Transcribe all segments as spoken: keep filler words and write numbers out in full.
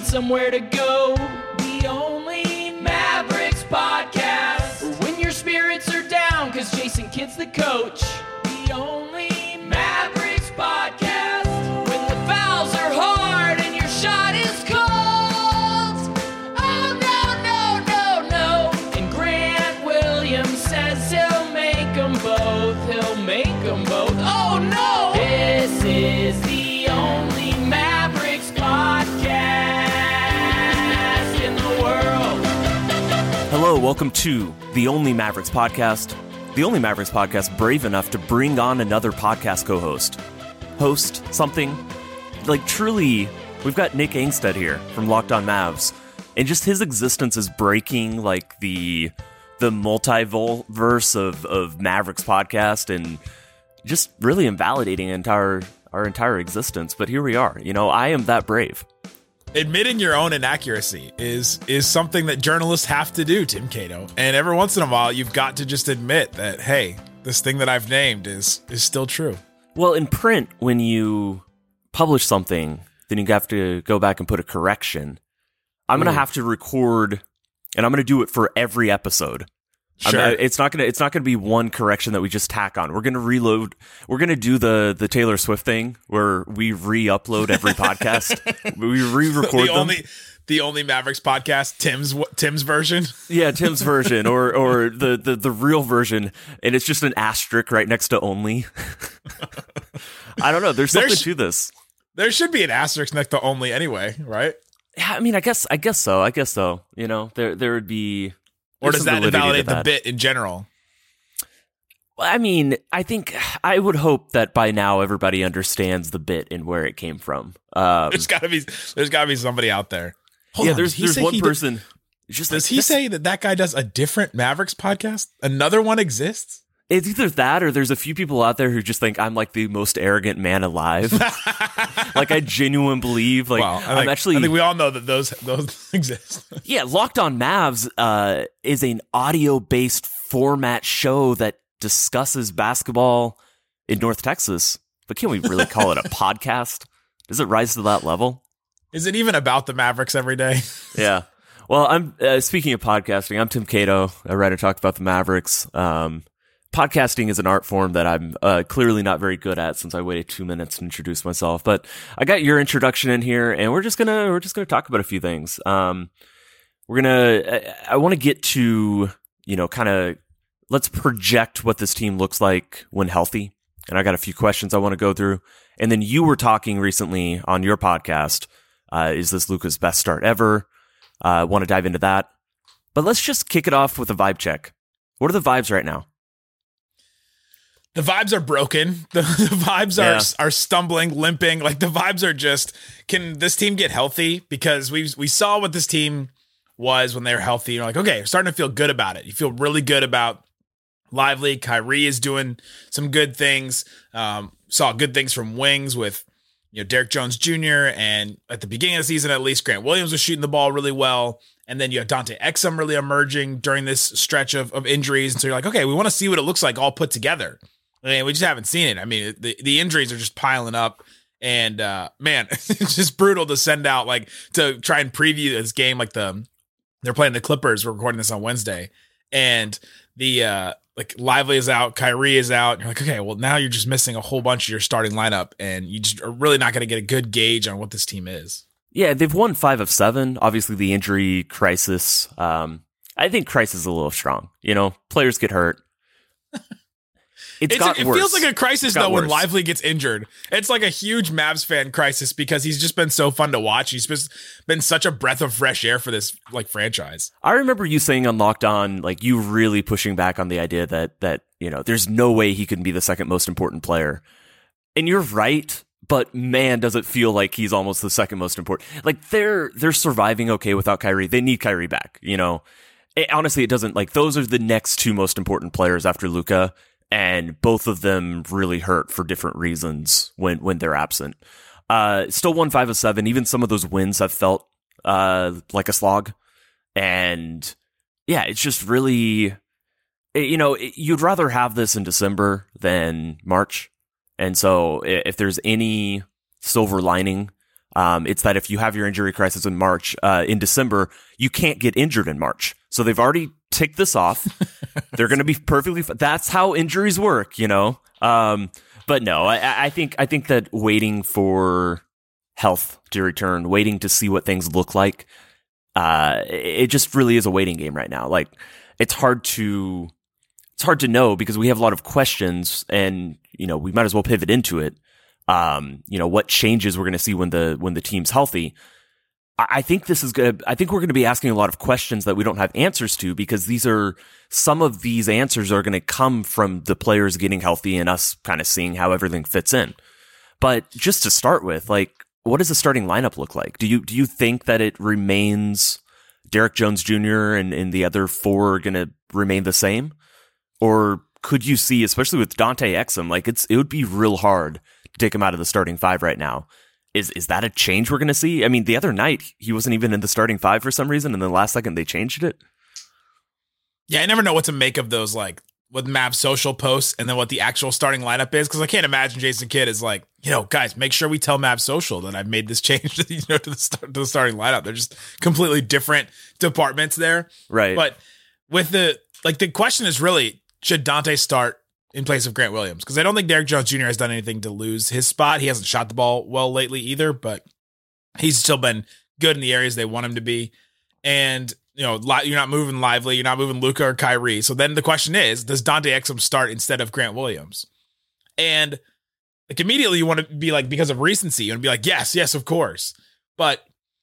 somewhere to go. The only Mavericks podcast. For when your spirits are down, cause Jason Kidd's the coach. The only Mavericks podcast. When the fouls are hard and your shot is cold. Oh no, no, no, no. And Grant Williams says he'll make them both. He'll make them both. Oh no! This is the only Mavericks podcast in the world. Hello, welcome to the Only Mavericks podcast. The Only Mavericks podcast brave enough to bring on another podcast co-host. Host something. Like truly, we've got Nick Angstead here from Locked On Mavs. And just his existence is breaking like the the multiverse of, of Mavericks podcast and just really invalidating entire our entire existence. But here we are. You know, I am that brave. Admitting your own inaccuracy is is something that journalists have to do, Tim Cato. And every once in a while, you've got to just admit that, hey, this thing that I've named is is still true. Well, in print, when you publish something, then you have to go back and put a correction. I'm going to have to record, and I'm going to do it for every episode. Sure. I mean, it's not gonna. It's not gonna be one correction that we just tack on. We're gonna reload. We're gonna do the the Taylor Swift thing where we re-upload every podcast. We re-record the them. Only, the only Mavericks podcast, Tim's Tim's version. Yeah, Tim's version, or or the, the the real version, and it's just an asterisk right next to only. I don't know. There's something There's, to this. There should be an asterisk next to only anyway, right? Yeah, I mean, I guess I guess so. I guess so. You know, there there would be. Or does that invalidate that. the bit in general? Well, I mean, I think I would hope that by now everybody understands the bit and where it came from. Um, there's got to be there's got to be somebody out there. Hold yeah, on, there's there's one person. Does, just does like, he this, say that that guy does a different Mavericks podcast? Another one exists? It's either that or there's a few people out there who just think I'm like the most arrogant man alive. Like I genuinely believe like well, I I'm think, actually I think we all know that those those exist. Yeah, Locked On Mavs uh, is an audio-based format show that discusses basketball in North Texas. But can we really call it a podcast? Does it rise to that level? Is it even about the Mavericks every day? Yeah. Well, I'm uh, speaking of podcasting, I'm Tim Cato. I write and talk about the Mavericks. Um, Podcasting is an art form that I'm uh, clearly not very good at since I waited two minutes to introduce myself. But I got your introduction in here, and we're just gonna we're just gonna talk about a few things. Um, we're gonna I, I want to get to you know kind of let's project what this team looks like when healthy, and I got a few questions I want to go through. And then you were talking recently on your podcast. Uh, is this Luka's best start ever? I uh, want to dive into that, but let's just kick it off with a vibe check. What are the vibes right now? The vibes are broken. The, the vibes yeah. are are stumbling, limping. Like the vibes are just, can this team get healthy? Because we we saw what this team was when they were healthy. You're like, okay, you're starting to feel good about it. You feel really good about Lively. Kyrie is doing some good things. Um, saw good things from wings with you know Derek Jones Junior And at the beginning of the season, at least, Grant Williams was shooting the ball really well. And then you have Dante Exum really emerging during this stretch of, of injuries. And so you're like, okay, we want to see what it looks like all put together. I mean, we just haven't seen it. I mean, the, the injuries are just piling up. And, uh, man, it's just brutal to send out, like, to try and preview this game. Like, the they're playing the Clippers. We're recording this on Wednesday. And the, uh, like, Lively is out. Kyrie is out. And you're like, okay, well, now you're just missing a whole bunch of your starting lineup. And you just are really not going to get a good gauge on what this team is. Yeah, they've won five of seven. Obviously, the injury crisis. Um, I think crisis is a little strong. You know, players get hurt. It's, it's got a, it worse. feels like a crisis though worse. when Lively gets injured. It's like a huge Mavs fan crisis because he's just been so fun to watch. He's just been such a breath of fresh air for this like franchise. I remember you saying on Locked On, like you really pushing back on the idea that that you know there's no way he can be the second most important player, and you're right. But man, does it feel like he's almost the second most important. Like they're they're surviving okay without Kyrie. They need Kyrie back. You know, it, honestly, it doesn't like those are the next two most important players after Luka. And both of them really hurt for different reasons when, when they're absent. Uh, still won five of seven. Even some of those wins have felt uh, like a slog. And yeah, it's just really, you know, you'd rather have this in December than March. And so if there's any silver lining, Um, it's that if you have your injury crisis in March, uh, in December, you can't get injured in March. So they've already ticked this off. They're going to be perfectly fine. That's how injuries work, you know? Um, but no, I, I think, I think that waiting for health to return, waiting to see what things look like, uh, it just really is a waiting game right now. Like, it's hard to, it's hard to know because we have a lot of questions and, you know, we might as well pivot into it. Um, you know, what changes we're going to see when the, when the team's healthy. I, I think this is going to, I think we're going to be asking a lot of questions that we don't have answers to because these are, some of these answers are going to come from the players getting healthy and us kind of seeing how everything fits in. But just to start with, like, what does the starting lineup look like? Do you, do you think that it remains Derek Jones Junior and, and the other four are going to remain the same? Or could you see, especially with Dante Exum, like it's, it would be real hard to take him out of the starting five right now. Is, is that a change we're going to see? I mean, the other night he wasn't even in the starting five for some reason. And then last second they changed it. Yeah. I never know what to make of those, like with Mavs social posts and then what the actual starting lineup is. Cause I can't imagine Jason Kidd is like, you know, guys, make sure we tell Mavs social that I've made this change you know, to the start, to the starting lineup. They're just completely different departments there. Right. But with the, like the question is really, should Dante start in place of Grant Williams? Because I don't think Derek Jones Junior has done anything to lose his spot. He hasn't shot the ball well lately either, but he's still been good in the areas they want him to be. And, you know, you're not moving Lively, you're not moving Luka or Kyrie. So then the question is, does Dante Exum start instead of Grant Williams? And like immediately you want to be like, because of recency, you want to be like, yes, yes, of course. But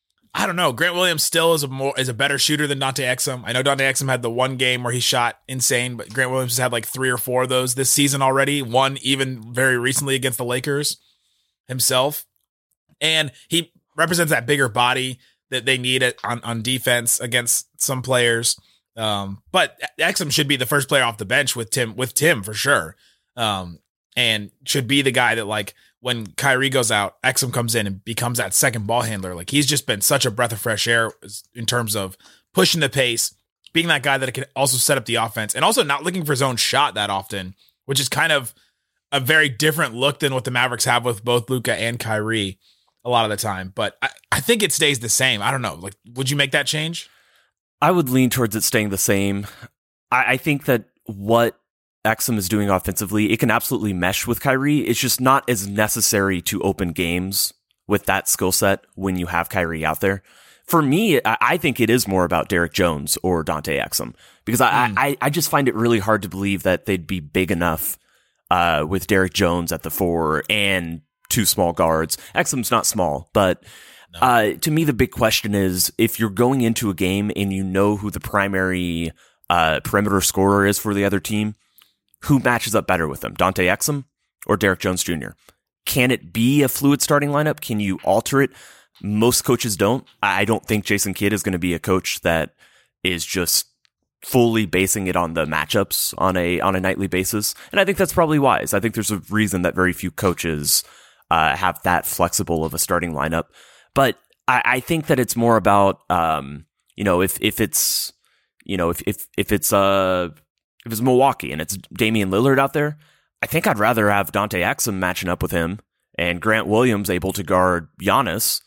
I don't know. Grant Williams still is a more is a better shooter than Dante Exum. I know Dante Exum had the one game where he shot insane, but Grant Williams has had like three or four of those this season already. One even very recently against the Lakers himself. And he represents that bigger body that they need it on, on defense against some players. Um, but Exum should be the first player off the bench with Tim with Tim for sure. Um, and should be the guy that like when Kyrie goes out, Exum comes in and becomes that second ball handler. Like he's just been such a breath of fresh air in terms of pushing the pace, being that guy that can also set up the offense and also not looking for his own shot that often, which is kind of a very different look than what the Mavericks have with both Luka and Kyrie a lot of the time. But I, I think it stays the same. I don't know. Like, would you make that change? I would lean towards it staying the same. I, I think that what Exum is doing offensively, it can absolutely mesh with Kyrie. It's just not as necessary to open games with that skill set when you have Kyrie out there. For me, I, I think it is more about Derek Jones or Dante Exum because I, mm. I, I just find it really hard to believe that they'd be big enough uh, with Derek Jones at the four and two small guards. Exum's not small, but no. uh, to me, the big question is if you're going into a game and you know who the primary uh, perimeter scorer is for the other team, who matches up better with them, Dante Exum or Derek Jones Junior? Can it be a fluid starting lineup? Can you alter it? Most coaches don't. I don't think Jason Kidd is going to be a coach that is just fully basing it on the matchups on a on a nightly basis. And I think that's probably wise. I think there's a reason that very few coaches uh, have that flexible of a starting lineup. But I, I think that it's more about, um, you know, if if it's, you know, if if if it's uh if it's Milwaukee and it's Damian Lillard out there, I think I'd rather have Dante Exum matching up with him and Grant Williams able to guard Giannis.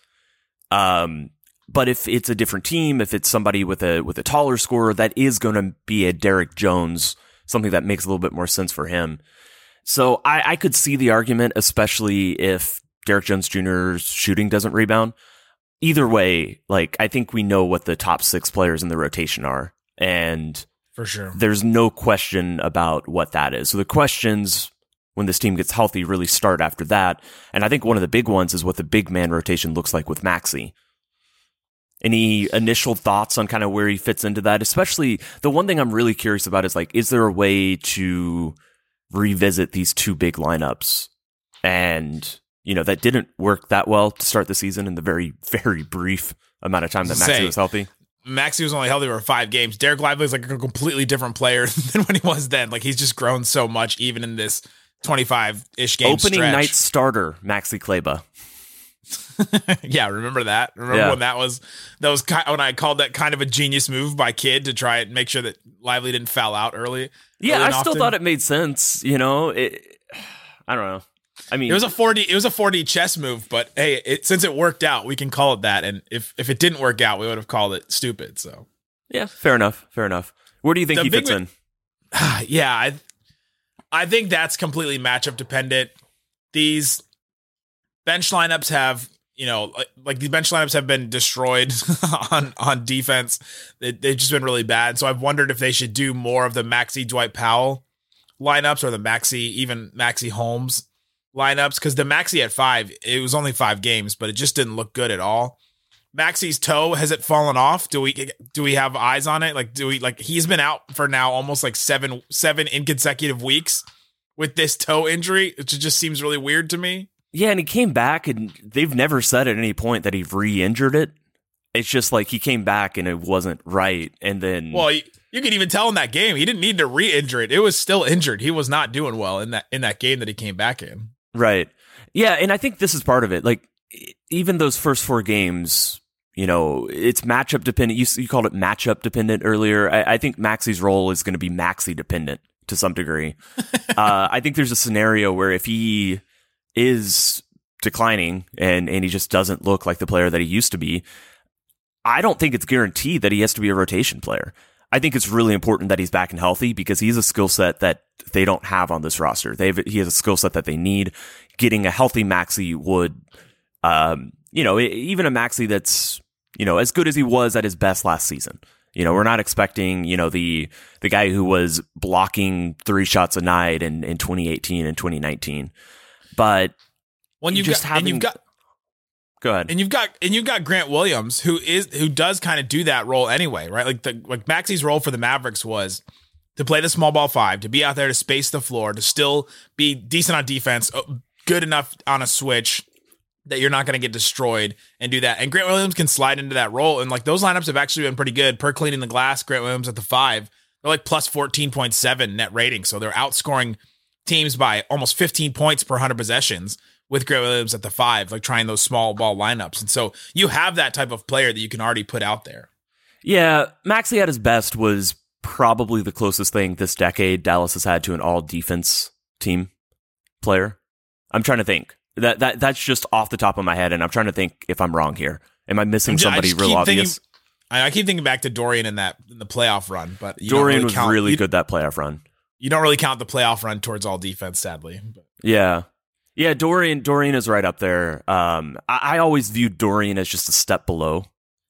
Um, but if it's a different team, if it's somebody with a with a taller scorer, that is going to be a Derek Jones, something that makes a little bit more sense for him. So I, I could see the argument, especially if Derek Jones Junior's shooting doesn't rebound. Either way, like I think we know what the top six players in the rotation are, and for sure, there's no question about what that is. So the questions when this team gets healthy really start after that. And I think one of the big ones is what the big man rotation looks like with Maxey. Any initial thoughts on kind of where he fits into that? Especially the one thing I'm really curious about is like, is there a way to revisit these two big lineups? And, you know, that didn't work that well to start the season in the very, very brief amount of time that Maxey was healthy. Maxey was only healthy for five games. Derek Lively is like a completely different player than when he was then. Like he's just grown so much, even in this twenty-five-ish game Opening stretch. night starter, Maxey Kleber. Yeah, remember that? Remember yeah. when that was that was kind, when I called that kind of a genius move by Kidd to try and make sure that Lively didn't foul out early? Yeah, early I still often. thought it made sense. You know, it, I don't know. I mean, it was a four D, it was a four D chess move, but hey, it, since it worked out, we can call it that. And if, if it didn't work out, we would have called it stupid. So yeah, fair enough. Fair enough. Where do you think The he big fits ma- in? yeah, I, I think that's completely matchup dependent. These bench lineups have, you know, like, like these bench lineups have been destroyed on, on defense. They, they've just been really bad. So I've wondered if they should do more of the Maxey Dwight Powell lineups or the Maxey, even Maxey Holmes lineups. Because the Maxey at five, it was only five games, but it just didn't look good at all. Maxey's toe, has it fallen off? Do we do we have eyes on it? Like, do we like he's been out for now almost like seven seven inconsecutive weeks with this toe injury, which just seems really weird to me. Yeah, and he came back, and they've never said at any point that he re-injured it. It's just like he came back and it wasn't right, and then well, you, you could even tell in that game he didn't need to re-injure it. It was still injured. He was not doing well in that in that game that he came back in. Right. Yeah, and I think this is part of it. Like even those first four games, you know, it's matchup dependent. You, you called it matchup dependent earlier. I, I think Maxey's role is going to be Maxey dependent to some degree. uh, I think there's a scenario where if he is declining and, and he just doesn't look like the player that he used to be, I don't think it's guaranteed that he has to be a rotation player. I think it's really important that he's back and healthy because he's a skill set that they don't have on this roster. They have, he has a skill set that they need. Getting a healthy Maxey would, um, you know, even a Maxey that's, you know, as good as he was at his best last season. You know, we're not expecting, you know, the the guy who was blocking three shots a night in, in twenty eighteen and twenty nineteen. But when you just have, and you've got, go ahead, and you've got, and you've got Grant Williams, who is who does kind of do that role anyway, right? Like the like Maxey's role for the Mavericks was to play the small ball five, to be out there to space the floor, to still be decent on defense, good enough on a switch that you're not going to get destroyed and do that. And Grant Williams can slide into that role. And like those lineups have actually been pretty good per cleaning the glass. Grant Williams at the five, they're like plus fourteen point seven net rating. So they're outscoring teams by almost fifteen points per one hundred possessions with Grant Williams at the five, like trying those small ball lineups. And so you have that type of player that you can already put out there. Yeah. Maxey at his best was probably the closest thing this decade Dallas has had to an all defense team player. I'm trying to think. That that that's just off the top of my head, and I'm trying to think if I'm wrong here. Am I missing just, somebody real obvious? Thinking, I, I keep thinking back to Dorian in that in the playoff run, but you Dorian don't really was count, really you, good that playoff run. You don't really count the playoff run towards all defense, sadly. But. Yeah, yeah. Dorian Dorian is right up there. Um, I, I always viewed Dorian as just a step below,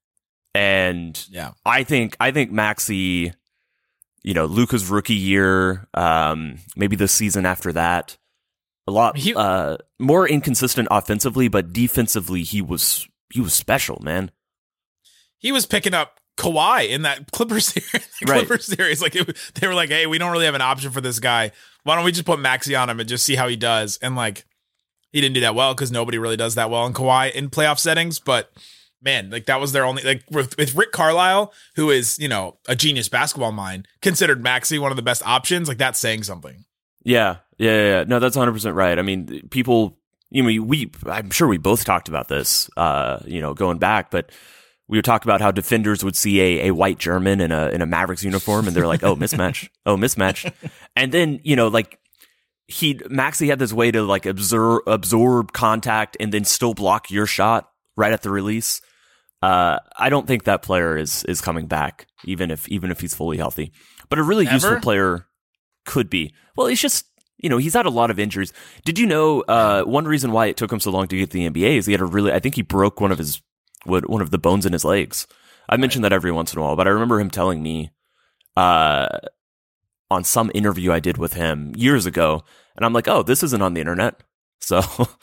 and yeah, I think I think Maxey, you know, Luka's rookie year, um, maybe the season after that. A lot he, uh, more inconsistent offensively, but defensively he was he was special, man. He was picking up Kawhi in that Clippers series. Right. Clippers series, like it, they were like, "Hey, we don't really have an option for this guy. Why don't we just put Maxey on him and just see how he does?" And like, he didn't do that well because nobody really does that well in Kawhi in playoff settings. But man, like that was their only like with, with Rick Carlisle, who is you know a genius basketball mind, considered Maxey one of the best options. Like that's saying something. Yeah, yeah, yeah, yeah. No, that's one hundred percent right. I mean, people, you know, we, I'm sure we both talked about this, uh, you know, going back, but we would talk about how defenders would see a, a white German in a, in a Mavericks uniform and they're like, oh, mismatch. Oh, mismatch. And then, you know, like he, Maxey had this way to like absorb, absorb contact and then still block your shot right at the release. Uh, I don't think that player is, is coming back, even if, even if he's fully healthy, but a really Ever? useful player could be. Well, it's just, you know, he's had a lot of injuries. Did you know uh, one reason why it took him so long to get to the N B A is he had a really, I think he broke one of his, one of the bones in his legs. I mention that every once in a while, but I remember him telling me uh, on some interview I did with him years ago, and I'm like, oh, this isn't on the internet. So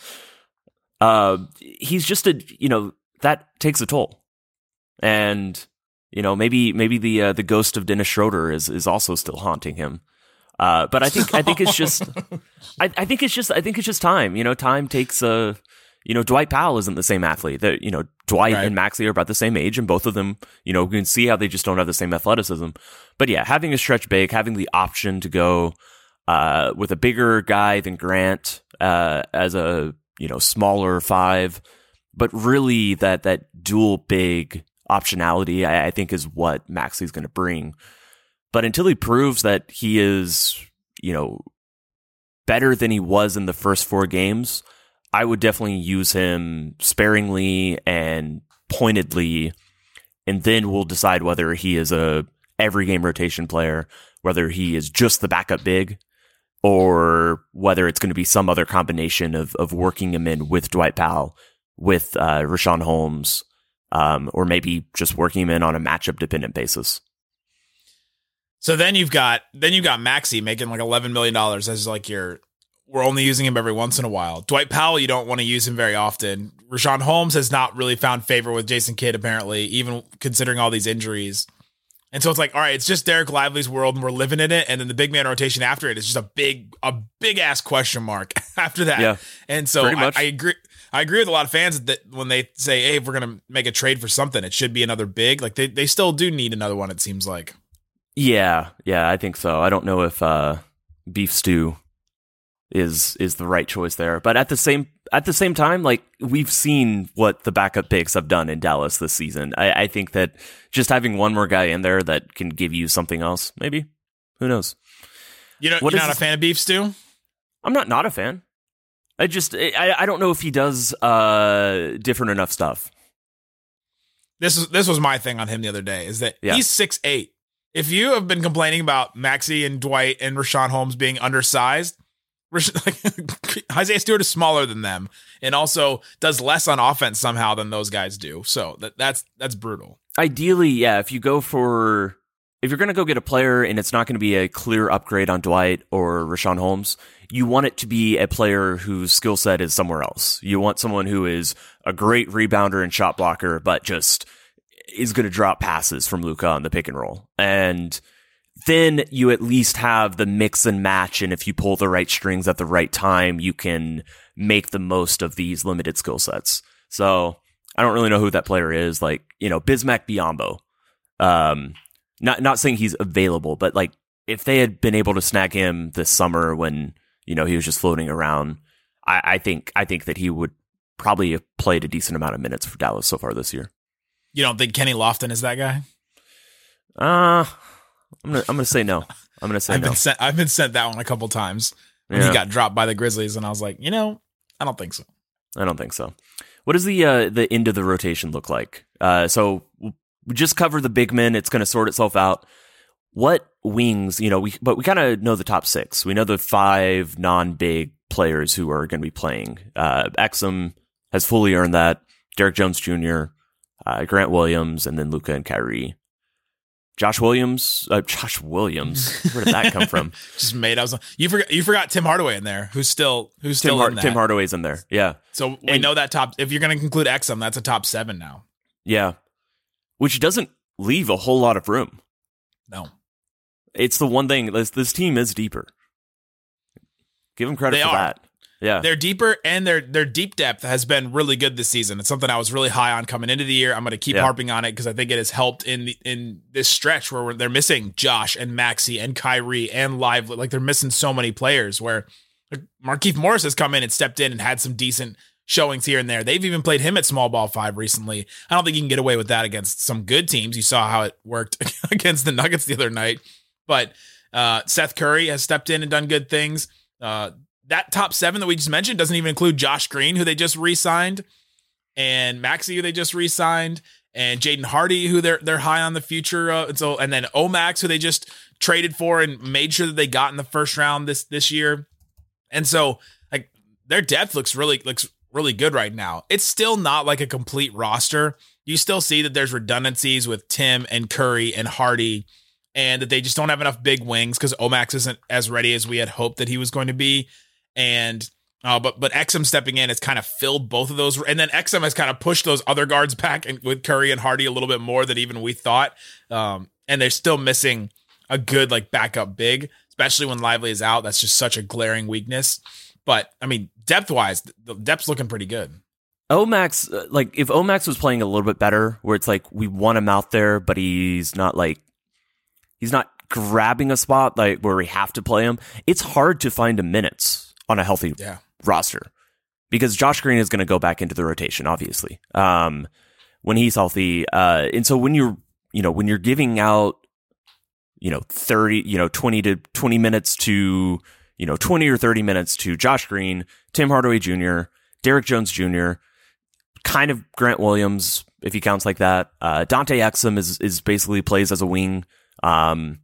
uh, he's just a, you know, that takes a toll. And, you know, maybe maybe the uh, the ghost of Dennis Schroeder is is also still haunting him. Uh, but I think I think it's just I, I think it's just I think it's just time. You know, time takes a you know Dwight Powell isn't the same athlete. That you know Dwight right. and Maxey are about the same age, and both of them you know we can see how they just don't have the same athleticism. But yeah, having a stretch big, having the option to go uh, with a bigger guy than Grant uh, as a you know smaller five, but really that that dual big optionality I, I think is what Maxey's going to bring. But until he proves that he is, you know, better than he was in the first four games, I would definitely use him sparingly and pointedly, and then we'll decide whether he is a every game rotation player, whether he is just the backup big, or whether it's going to be some other combination of of working him in with Dwight Powell, with uh, Richaun Holmes, um, or maybe just working him in on a matchup dependent basis. So then you've got then you've got Maxey making like eleven million dollars as like your, we're only using him every once in a while. Dwight Powell, you don't want to use him very often. Richaun Holmes has not really found favor with Jason Kidd, apparently, even considering all these injuries. And so it's like, all right, it's just Derek Lively's world and we're living in it. And then the big man rotation after it is just a big, a big ass question mark after that. Yeah, and so I, I agree. I agree with a lot of fans that when they say, hey, if we're going to make a trade for something, it should be another big. Like they, they still do need another one, it seems like. Yeah, yeah, I think so. I don't know if uh, Beef Stew is is the right choice there, but at the same at the same time, like we've seen what the backup picks have done in Dallas this season. I, I think that just having one more guy in there that can give you something else, maybe, who knows? You know, what you're is not this? a fan of Beef Stew? I'm not not a fan. I just I, I don't know if he does uh, different enough stuff. This is this was my thing on him the other day, is that Yeah. he's six eight. If you have been complaining about Maxey and Dwight and Richaun Holmes being undersized, Rish- like, Isaiah Stewart is smaller than them and also does less on offense somehow than those guys do. So that, that's that's brutal. Ideally, yeah, if you go for if you're going to go get a player and it's not going to be a clear upgrade on Dwight or Richaun Holmes, you want it to be a player whose skill set is somewhere else. You want someone who is a great rebounder and shot blocker, but just is going to drop passes from Luka on the pick and roll. And then you at least have the mix and match. And if you pull the right strings at the right time, you can make the most of these limited skill sets. So I don't really know who that player is. Like, you know, Bismack Biyombo. Um, not, not saying he's available, but like if they had been able to snag him this summer when, you know, he was just floating around, I, I think, I think that he would probably have played a decent amount of minutes for Dallas so far this year. You don't think Kenny Lofton is that guy? Uh, I'm gonna I'm gonna say no. I'm gonna say I've no. been sent I've been sent that one a couple times when Yeah. he got dropped by the Grizzlies, and I was like, you know, I don't think so. I don't think so. What does the uh, the end of the rotation look like? Uh, so we just covered the big men. It's going to sort itself out. What wings? You know, we but we kind of know the top six. We know the five non-big players who are going to be playing. Uh, Exum has fully earned that. Derek Jones Junior, uh, Grant Williams, and then Luka and Kyrie. Josh Williams, uh, Josh Williams. Where did that come from? Just made. I was. You forgot. You forgot Tim Hardaway in there, who's still who's Tim, still Har- in that. Tim Hardaway's in there. Yeah. So we And- know that top. If you're going to conclude Exum, that's a top seven now. Yeah. Which doesn't leave a whole lot of room. No, It's the one thing. This, this team is deeper. Give them credit They for are. that. Yeah. they're deeper, and their their deep depth has been really good this season. It's something I was really high on coming into the year. I'm going to keep Yeah. harping on it because I think it has helped in the, in this stretch where we're, they're missing Josh and Maxey and Kyrie and Lively. Like they're missing so many players. Where like, Markieff Morris has come in and stepped in and had some decent showings here and there. They've even played him at small ball five recently. I don't think you can get away with that against some good teams. You saw how it worked against the Nuggets the other night. But uh, Seth Curry has stepped in and done good things. Uh, that top seven that we just mentioned doesn't even include Josh Green, who they just re-signed, and Maxey, who they just re-signed, and Jaden Hardy, who they're they're high on the future. Uh, and so, and then Omax, who they just traded for and made sure that they got in the first round this this year. And so, like their depth looks really looks really good right now. It's still not like a complete roster. You still see that there's redundancies with Tim and Curry and Hardy, and that they just don't have enough big wings because Omax isn't as ready as we had hoped that he was going to be. And uh, but but Exum stepping in has kind of filled both of those, and then Exum has kind of pushed those other guards back and with Curry and Hardy a little bit more than even we thought. Um, and they're still missing a good like backup big, especially when Lively is out. That's just such a glaring weakness. But I mean, depth wise, the depth's looking pretty good. Omax, uh, like if Omax was playing a little bit better, where it's like we want him out there, but he's not like he's not grabbing a spot like where we have to play him. It's hard to find him minutes on a healthy Yeah. roster because Josh Green is going to go back into the rotation, obviously, um, when he's healthy. Uh, and so when you're, you know, when you're giving out, you know, thirty, you know, twenty to twenty minutes to you know, twenty or thirty minutes to Josh Green, Tim Hardaway Junior, Derek Jones Junior, kind of Grant Williams, if he counts like that. Uh, Dante Exum is is basically plays as a wing. Um,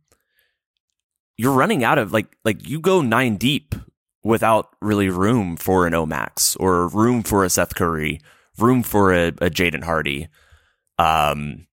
you're running out of, like, like you go nine deep without really room for an Omax or room for a Seth Curry, room for a, a Jaden Hardy. Um,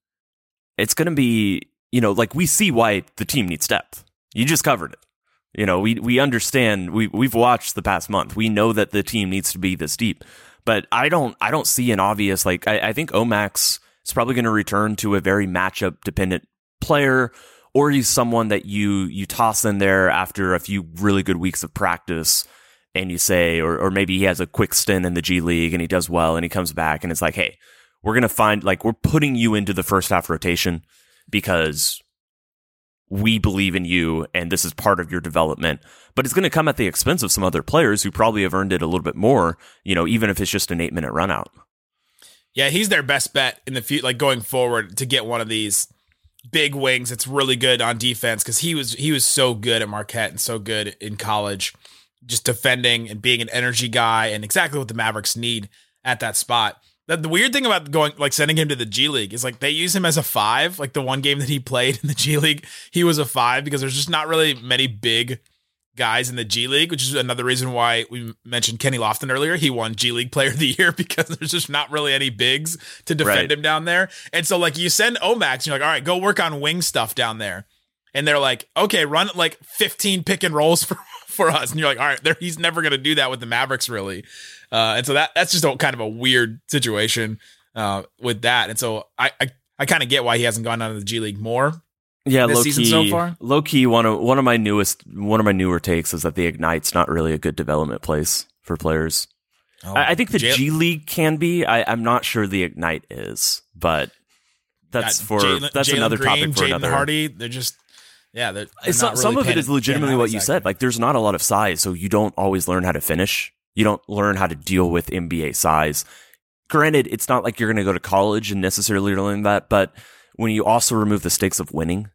it's going to be, you know, like, we see why the team needs depth. You just covered it. You know, we we understand. We we've watched the past month. We know that the team needs to be this deep. But I don't I don't see an obvious, like, I, I think Omax is probably going to return to a very matchup dependent player, or he's someone that you you toss in there after a few really good weeks of practice, and you say, or or maybe he has a quick stint in the G League and he does well and he comes back and it's like, hey, we're going to find, like, we're putting you into the first half rotation because we believe in you and this is part of your development. But it's going to come at the expense of some other players who probably have earned it a little bit more, you know, even if it's just an eight minute run out. Yeah, he's their best bet in the future, like going forward, to get one of these big wings. It's really good on defense because he was he was so good at Marquette and so good in college, just defending and being an energy guy and exactly what the Mavericks need at that spot. The, the weird thing about going, like, sending him to the G League is, like, they use him as a five. Like, the one game that he played in the G League, he was a five because there's just not really many big guys in the G League, which is another reason why we mentioned Kenny Lofton earlier. He won G League Player of the Year because there's just not really any bigs to defend Right. him down there. And so, like, you send Omax and you're like, all right, go work on wing stuff down there. And they're like, okay, run like fifteen pick and rolls for, for us. And you're like, all right, he's never going to do that with the Mavericks, really. Uh, and so that that's just a kind of a weird situation uh, with that. And so I I, I kind of get why he hasn't gone out of the G League more. Yeah, this low season key, so far? Low key, one of one of my newest, one of my newer takes is that the Ignite's not really a good development place for players. Oh, I, I think the Jay- G League can be. I, I'm not sure the Ignite is, but that's got for Jaylen- that's Jaylen another Green, topic for Jaden another. Hardy, they're just yeah. They're, they're It's not not- some really of it pan- is legitimately panning out what you exactly. said. Like, there's not a lot of size, so you don't always learn how to finish. You don't learn how to deal with N B A size. Granted, it's not like you're going to go to college and necessarily learn that, but when you also remove the stakes of winning,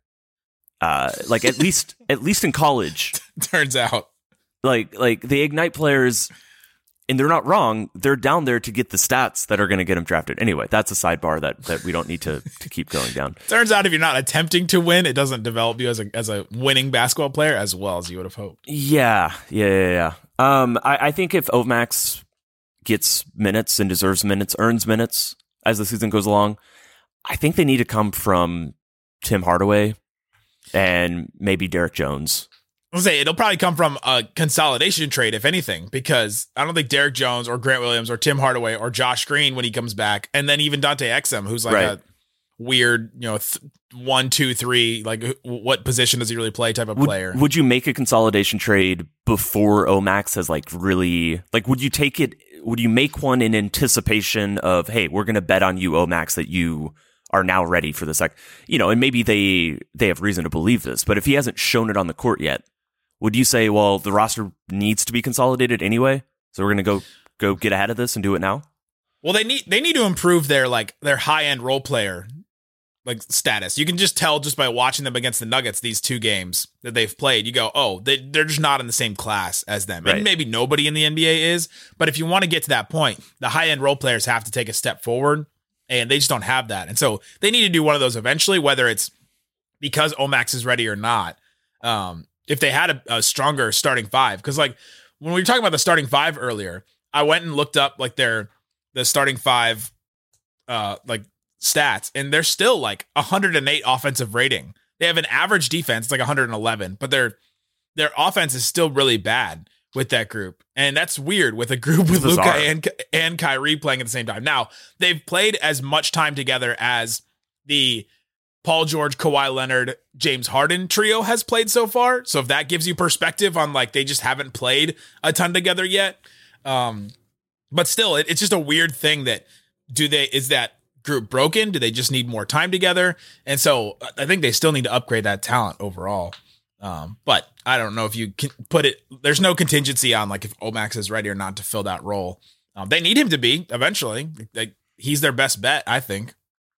uh, like at least at least in college, Turns out. like like the Ignite players, and they're not wrong, they're down there to get the stats that are going to get them drafted. Anyway, that's a sidebar that that we don't need to to keep going down. Turns out if you're not attempting to win, it doesn't develop you as a as a winning basketball player as well as you would have hoped. Yeah, yeah, yeah. yeah. Um, I, I think if Omax gets minutes and deserves minutes, earns minutes as the season goes along, I think they need to come from Tim Hardaway and maybe Derek Jones. I'll say it'll probably come from a consolidation trade, if anything, because I don't think Derek Jones or Grant Williams or Tim Hardaway or Josh Green when he comes back, and then even Dante Exum, who's like Right. a weird, you know, th- one, two, three, like wh- what position does he really play type of Would, player. would you make a consolidation trade before Omax has like really, like, would you take it, would you make one in anticipation of, hey, we're going to bet on you, Omax, that you are now ready for this? Like, you know, and maybe they, they have reason to believe this, but if he hasn't shown it on the court yet, would you say, well, the roster needs to be consolidated anyway, so we're going to go go get ahead of this and do it now? Well, they need they need to improve their like their high end role player like status. You can just tell just by watching them against the Nuggets these two games that they've played. You go, oh, they they're just not in the same class as them. Right. And maybe nobody in the N B A is, but if you want to get to that point, the high end role players have to take a step forward, and they just don't have that. And so they need to do one of those eventually, whether it's because Omax is ready or not. Um, if they had a, a stronger starting five, because like when we were talking about the starting five earlier, I went and looked up like their the starting five uh like stats, and they're still like one hundred eight offensive rating. They have an average defense, it's like one hundred eleven, but their their offense is still really bad with that group. And that's weird with a group with Luka and and Kyrie playing at the same time. Now, they've played as much time together as the Paul George, Kawhi Leonard, James Harden trio has played so far. So if that gives you perspective on like they just haven't played a ton together yet. Um, but still, it, it's just a weird thing that do they is that group broken? Do they just need more time together? And so I think they still need to upgrade that talent overall. Um, but I don't know if you can put it. There's no contingency on like if Omax is ready or not to fill that role. Um, they need him to be eventually. Like he's their best bet, I think.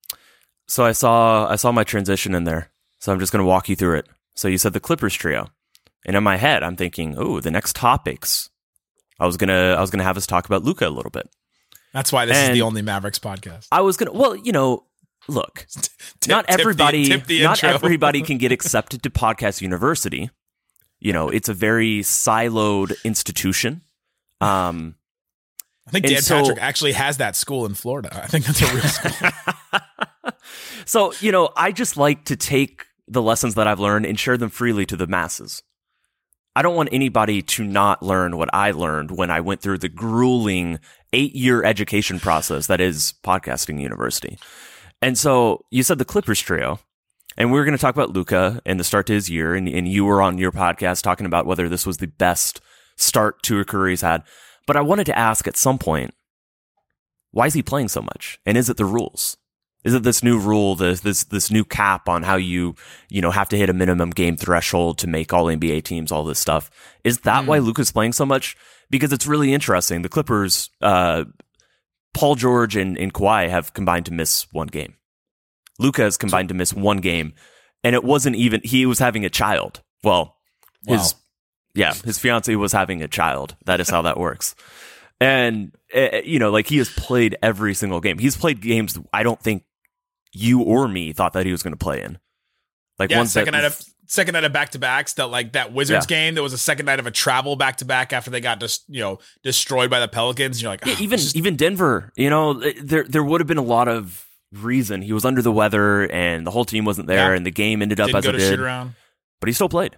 So I saw I saw my transition in there. So I'm just going to walk you through it. So you said the Clippers trio. And in my head, I'm thinking, oh, the next topics. I was gonna, I was gonna have us talk about Luka a little bit. That's why this and is the only Mavericks podcast. I was gonna, well, you know, look, tip, not everybody, tip the, tip the not intro. everybody can get accepted to Podcast University. You know, it's a very siloed institution. Um, I think Dan so, Patrick actually has that school in Florida. I think that's a real school. So, you know, I just like to take the lessons that I've learned and share them freely to the masses. I don't want anybody to not learn what I learned when I went through the grueling eight-year education process that is Podcasting University. And so you said the Clippers trio, and we were going to talk about Luka and the start to his year, and, and you were on your podcast talking about whether this was the best start to a career he's had. But I wanted to ask at some point, why is he playing so much? And is it the rules? Is it this new rule, this this this new cap on how you, you know, have to hit a minimum game threshold to make all N B A teams, all this stuff? Is that mm. why Luka's playing so much? Because it's really interesting. The Clippers, uh, Paul George and, and Kawhi have combined to miss one game. Luka has combined to miss one game, and it wasn't even, he was having a child. Well, his, wow. yeah, his fiance was having a child. That is how that works. And, uh, you know, like he has played every single game. He's played games I don't think you or me thought that he was going to play in. Like yeah, one second that, night of second night of back to backs. That like that Wizards yeah. game. There was a second night of a travel back to back after they got just you know destroyed by the Pelicans. And you're like, yeah, oh, even just- even Denver. You know, there there would have been a lot of reason. He was under the weather, and the whole team wasn't there, yeah. and the game ended up Didn't as go it to did. shoot around. But he still played.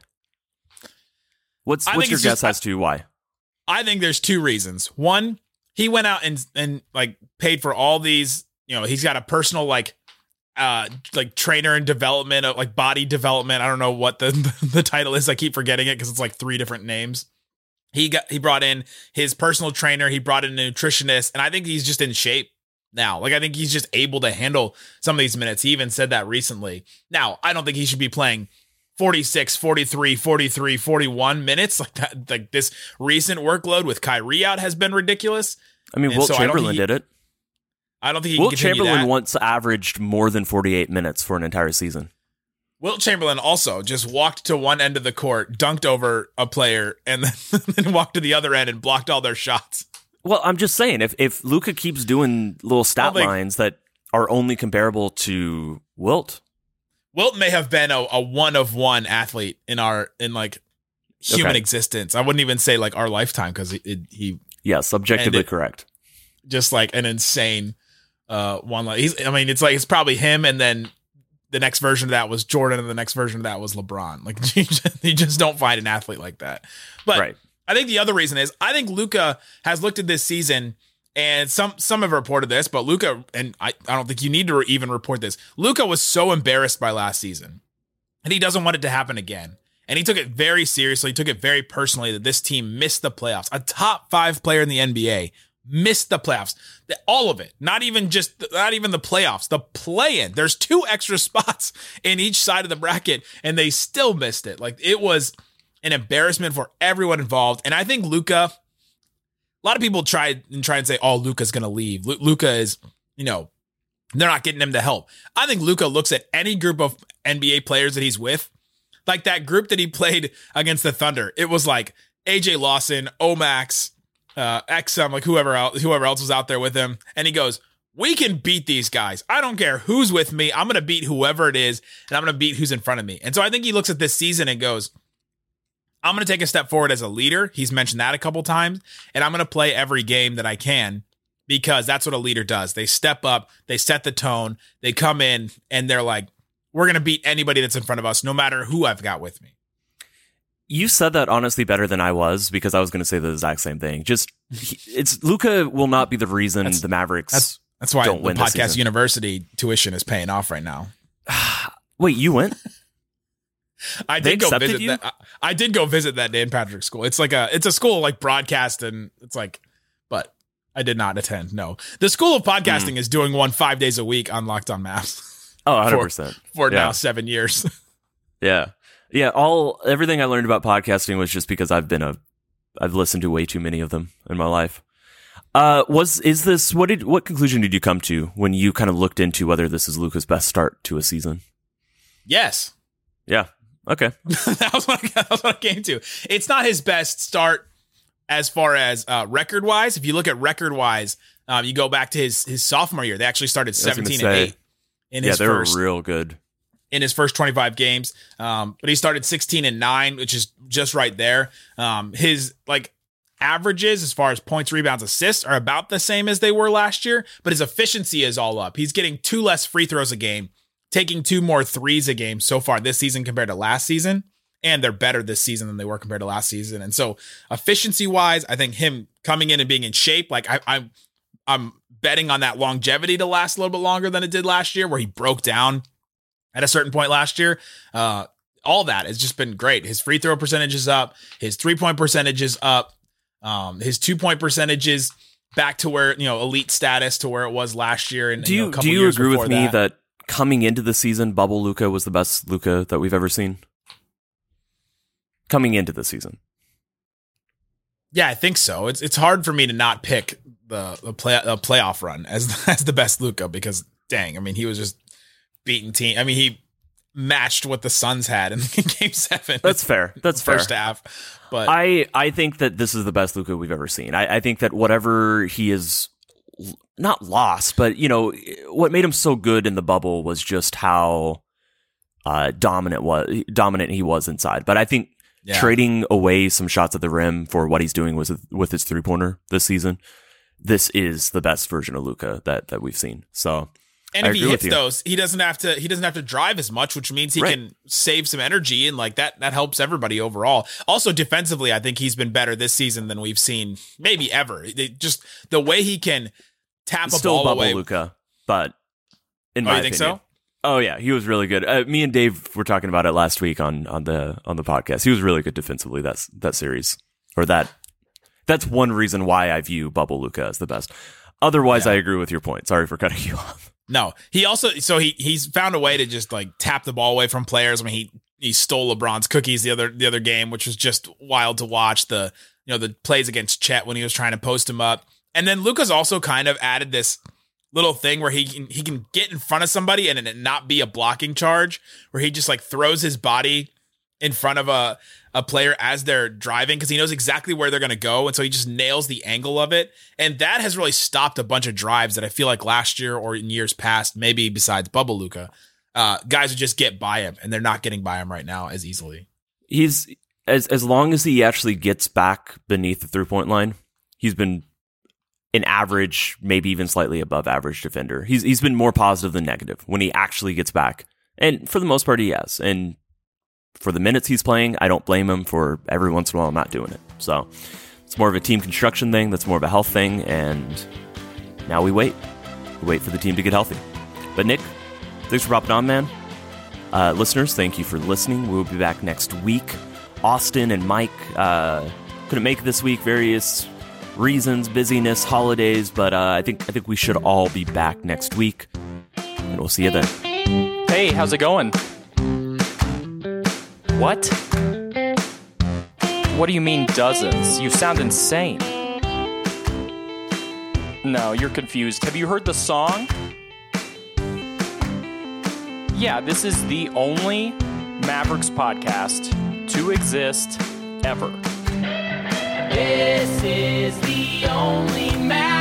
What's I what's think your it's guess just- as to why? I think there's two reasons. One, he went out and and like paid for all these. You know, he's got a personal like. Uh, like trainer and development, of like body development. I don't know what the the title is. I keep forgetting it because it's like three different names. He got he brought in his personal trainer. He brought in a nutritionist, and I think he's just in shape now. Like I think he's just able to handle some of these minutes. He even said that recently. Now I don't think he should be playing forty-six, forty-three, forty-three, forty-one minutes like that. Like this recent workload with Kyrie out has been ridiculous. I mean, and Wilt so Chamberlain he, did it. I don't think he Wilt can continue Chamberlain that. once averaged more than forty-eight minutes for an entire season. Wilt Chamberlain also just walked to one end of the court, dunked over a player, and then, then walked to the other end and blocked all their shots. Well, I'm just saying, if if Luka keeps doing little stat think, lines that are only comparable to Wilt, Wilt may have been a, a one of one athlete in our in like human okay. existence. I wouldn't even say like our lifetime because he, he yes, objectively it, correct. Just like an insane uh, one. Like he's, I mean, it's like it's probably him, and then the next version of that was Jordan, and the next version of that was LeBron. Like you just, you just don't find an athlete like that. But right. I think the other reason is I think Luka has looked at this season, and some some have reported this, but Luka, and I, I don't think you need to even report this. Luka was so embarrassed by last season, and he doesn't want it to happen again. And he took it very seriously, he took it very personally that this team missed the playoffs. A top five player in the N B A missed the playoffs. All of it. Not even just, not even the playoffs, the play-in. There's two extra spots in each side of the bracket, and they still missed it. Like, it was an embarrassment for everyone involved. And I think Luka, a lot of people try and try and say, oh, Luka's going to leave. Lu- Luka is, you know, they're not getting him the help. I think Luka looks at any group of N B A players that he's with, like that group that he played against the Thunder. It was like A J Lawson, Omax, uh, X M, like whoever else, whoever else was out there with him. And he goes, we can beat these guys. I don't care who's with me. I'm going to beat whoever it is, and I'm going to beat who's in front of me. And so I think he looks at this season and goes, I'm going to take a step forward as a leader. He's mentioned that a couple times, and I'm going to play every game that I can because that's what a leader does. They step up, they set the tone, they come in, and they're like, we're going to beat anybody that's in front of us, no matter who I've got with me. You said that honestly better than I was, because I was going to say the exact same thing. Just he, it's Luka will not be the reason that's, the Mavericks. That's that's why don't the win this Podcast season. University tuition is paying off right now. Wait, you went? I They did go accepted visit you? that. I, I did go visit that Dan Patrick school. It's like a it's a school like broadcast, and it's like, but I did not attend. No, the School of Podcasting mm. is doing one five days a week on Locked On Maps. Oh, one hundred percent for, for yeah. now seven years. Yeah. Yeah, all everything I learned about podcasting was just because I've been a I've listened to way too many of them in my life. Uh was is this what did what conclusion did you come to when you kind of looked into whether this is Luka's best start to a season? Yes. Yeah. Okay. that, was what I, that was what I came to. It's not his best start as far as uh, record-wise. If you look at record-wise, um, you go back to his his sophomore year. They actually started seventeen and eight in yeah, his they first. were real good. In his first twenty-five games. Um, but he started sixteen and nine, which is just right there. Um, his like averages as far as points, rebounds, assists are about the same as they were last year, but his efficiency is all up. He's getting two less free throws a game, taking two more threes a game so far this season compared to last season. And they're better this season than they were compared to last season. And so efficiency wise, I think him coming in and being in shape, like I, I'm, I'm betting on that longevity to last a little bit longer than it did last year, where he broke down at a certain point last year. Uh, all that has just been great. His free throw percentage is up. His three point percentage is up. Um, his two point percentage is back to where, you know, elite status to where it was last year. And do you, you know, a couple do you years agree with me that. that coming into the season, bubble Luka was the best Luka that we've ever seen? Coming into the season. Yeah, I think so. It's it's hard for me to not pick the the play the playoff run as as the best Luka, because dang, I mean, he was just beating team. I mean, he matched what the Suns had in game seven. That's fair. That's fair. First half. But I, I think that this is the best Luka we've ever seen. I, I think that whatever he is not lost, but you know, what made him so good in the bubble was just how uh, dominant was dominant he was inside. But I think yeah. trading away some shots at the rim for what he's doing with with his three pointer this season, this is the best version of Luka that that we've seen. So. And if he hits those, he doesn't have to. He doesn't have to drive as much, which means he right. can save some energy, and like that, that helps everybody overall. Also, defensively, I think he's been better this season than we've seen maybe ever. It just the way he can tap a Still ball bubble away. Luka, but in oh, my you think opinion, so? Oh yeah, he was really good. Uh, me and Dave were talking about it last week on on the on the podcast. He was really good defensively. That's that series or that. That's one reason why I view bubble Luka as the best. Otherwise, yeah. I agree with your point. Sorry for cutting you off. No, he also so he he's found a way to just like tap the ball away from players. I mean, he he stole LeBron's cookies the other the other game, which was just wild to watch. The you know the plays against Chet when he was trying to post him up, and then Luka's also kind of added this little thing where he can he can get in front of somebody and it not be a blocking charge, where he just like throws his body in front of a a player as they're driving because he knows exactly where they're going to go. And so he just nails the angle of it. And that has really stopped a bunch of drives that I feel like last year or in years past, maybe besides bubble Luka, uh, guys would just get by him, and they're not getting by him right now as easily. He's as, as long as he actually gets back beneath the three point line, he's been an average, maybe even slightly above average defender. He's, he's been more positive than negative when he actually gets back. And for the most part, he has. And for the minutes he's playing, I don't blame him for every once in a while not doing it. So it's more of a team construction thing. That's more of a health thing. And now we wait. We wait for the team to get healthy. But Nick, thanks for popping on, man. Uh, listeners, thank you for listening. We'll be back next week. Austin and Mike uh, couldn't make it this week. Various reasons, busyness, holidays. But uh, I think I think we should all be back next week. And we'll see you then. Hey, how's it going? What? What do you mean dozens? You sound insane. No, you're confused. Have you heard the song? Yeah, this is the only Mavericks podcast to exist ever. This is the only Mavericks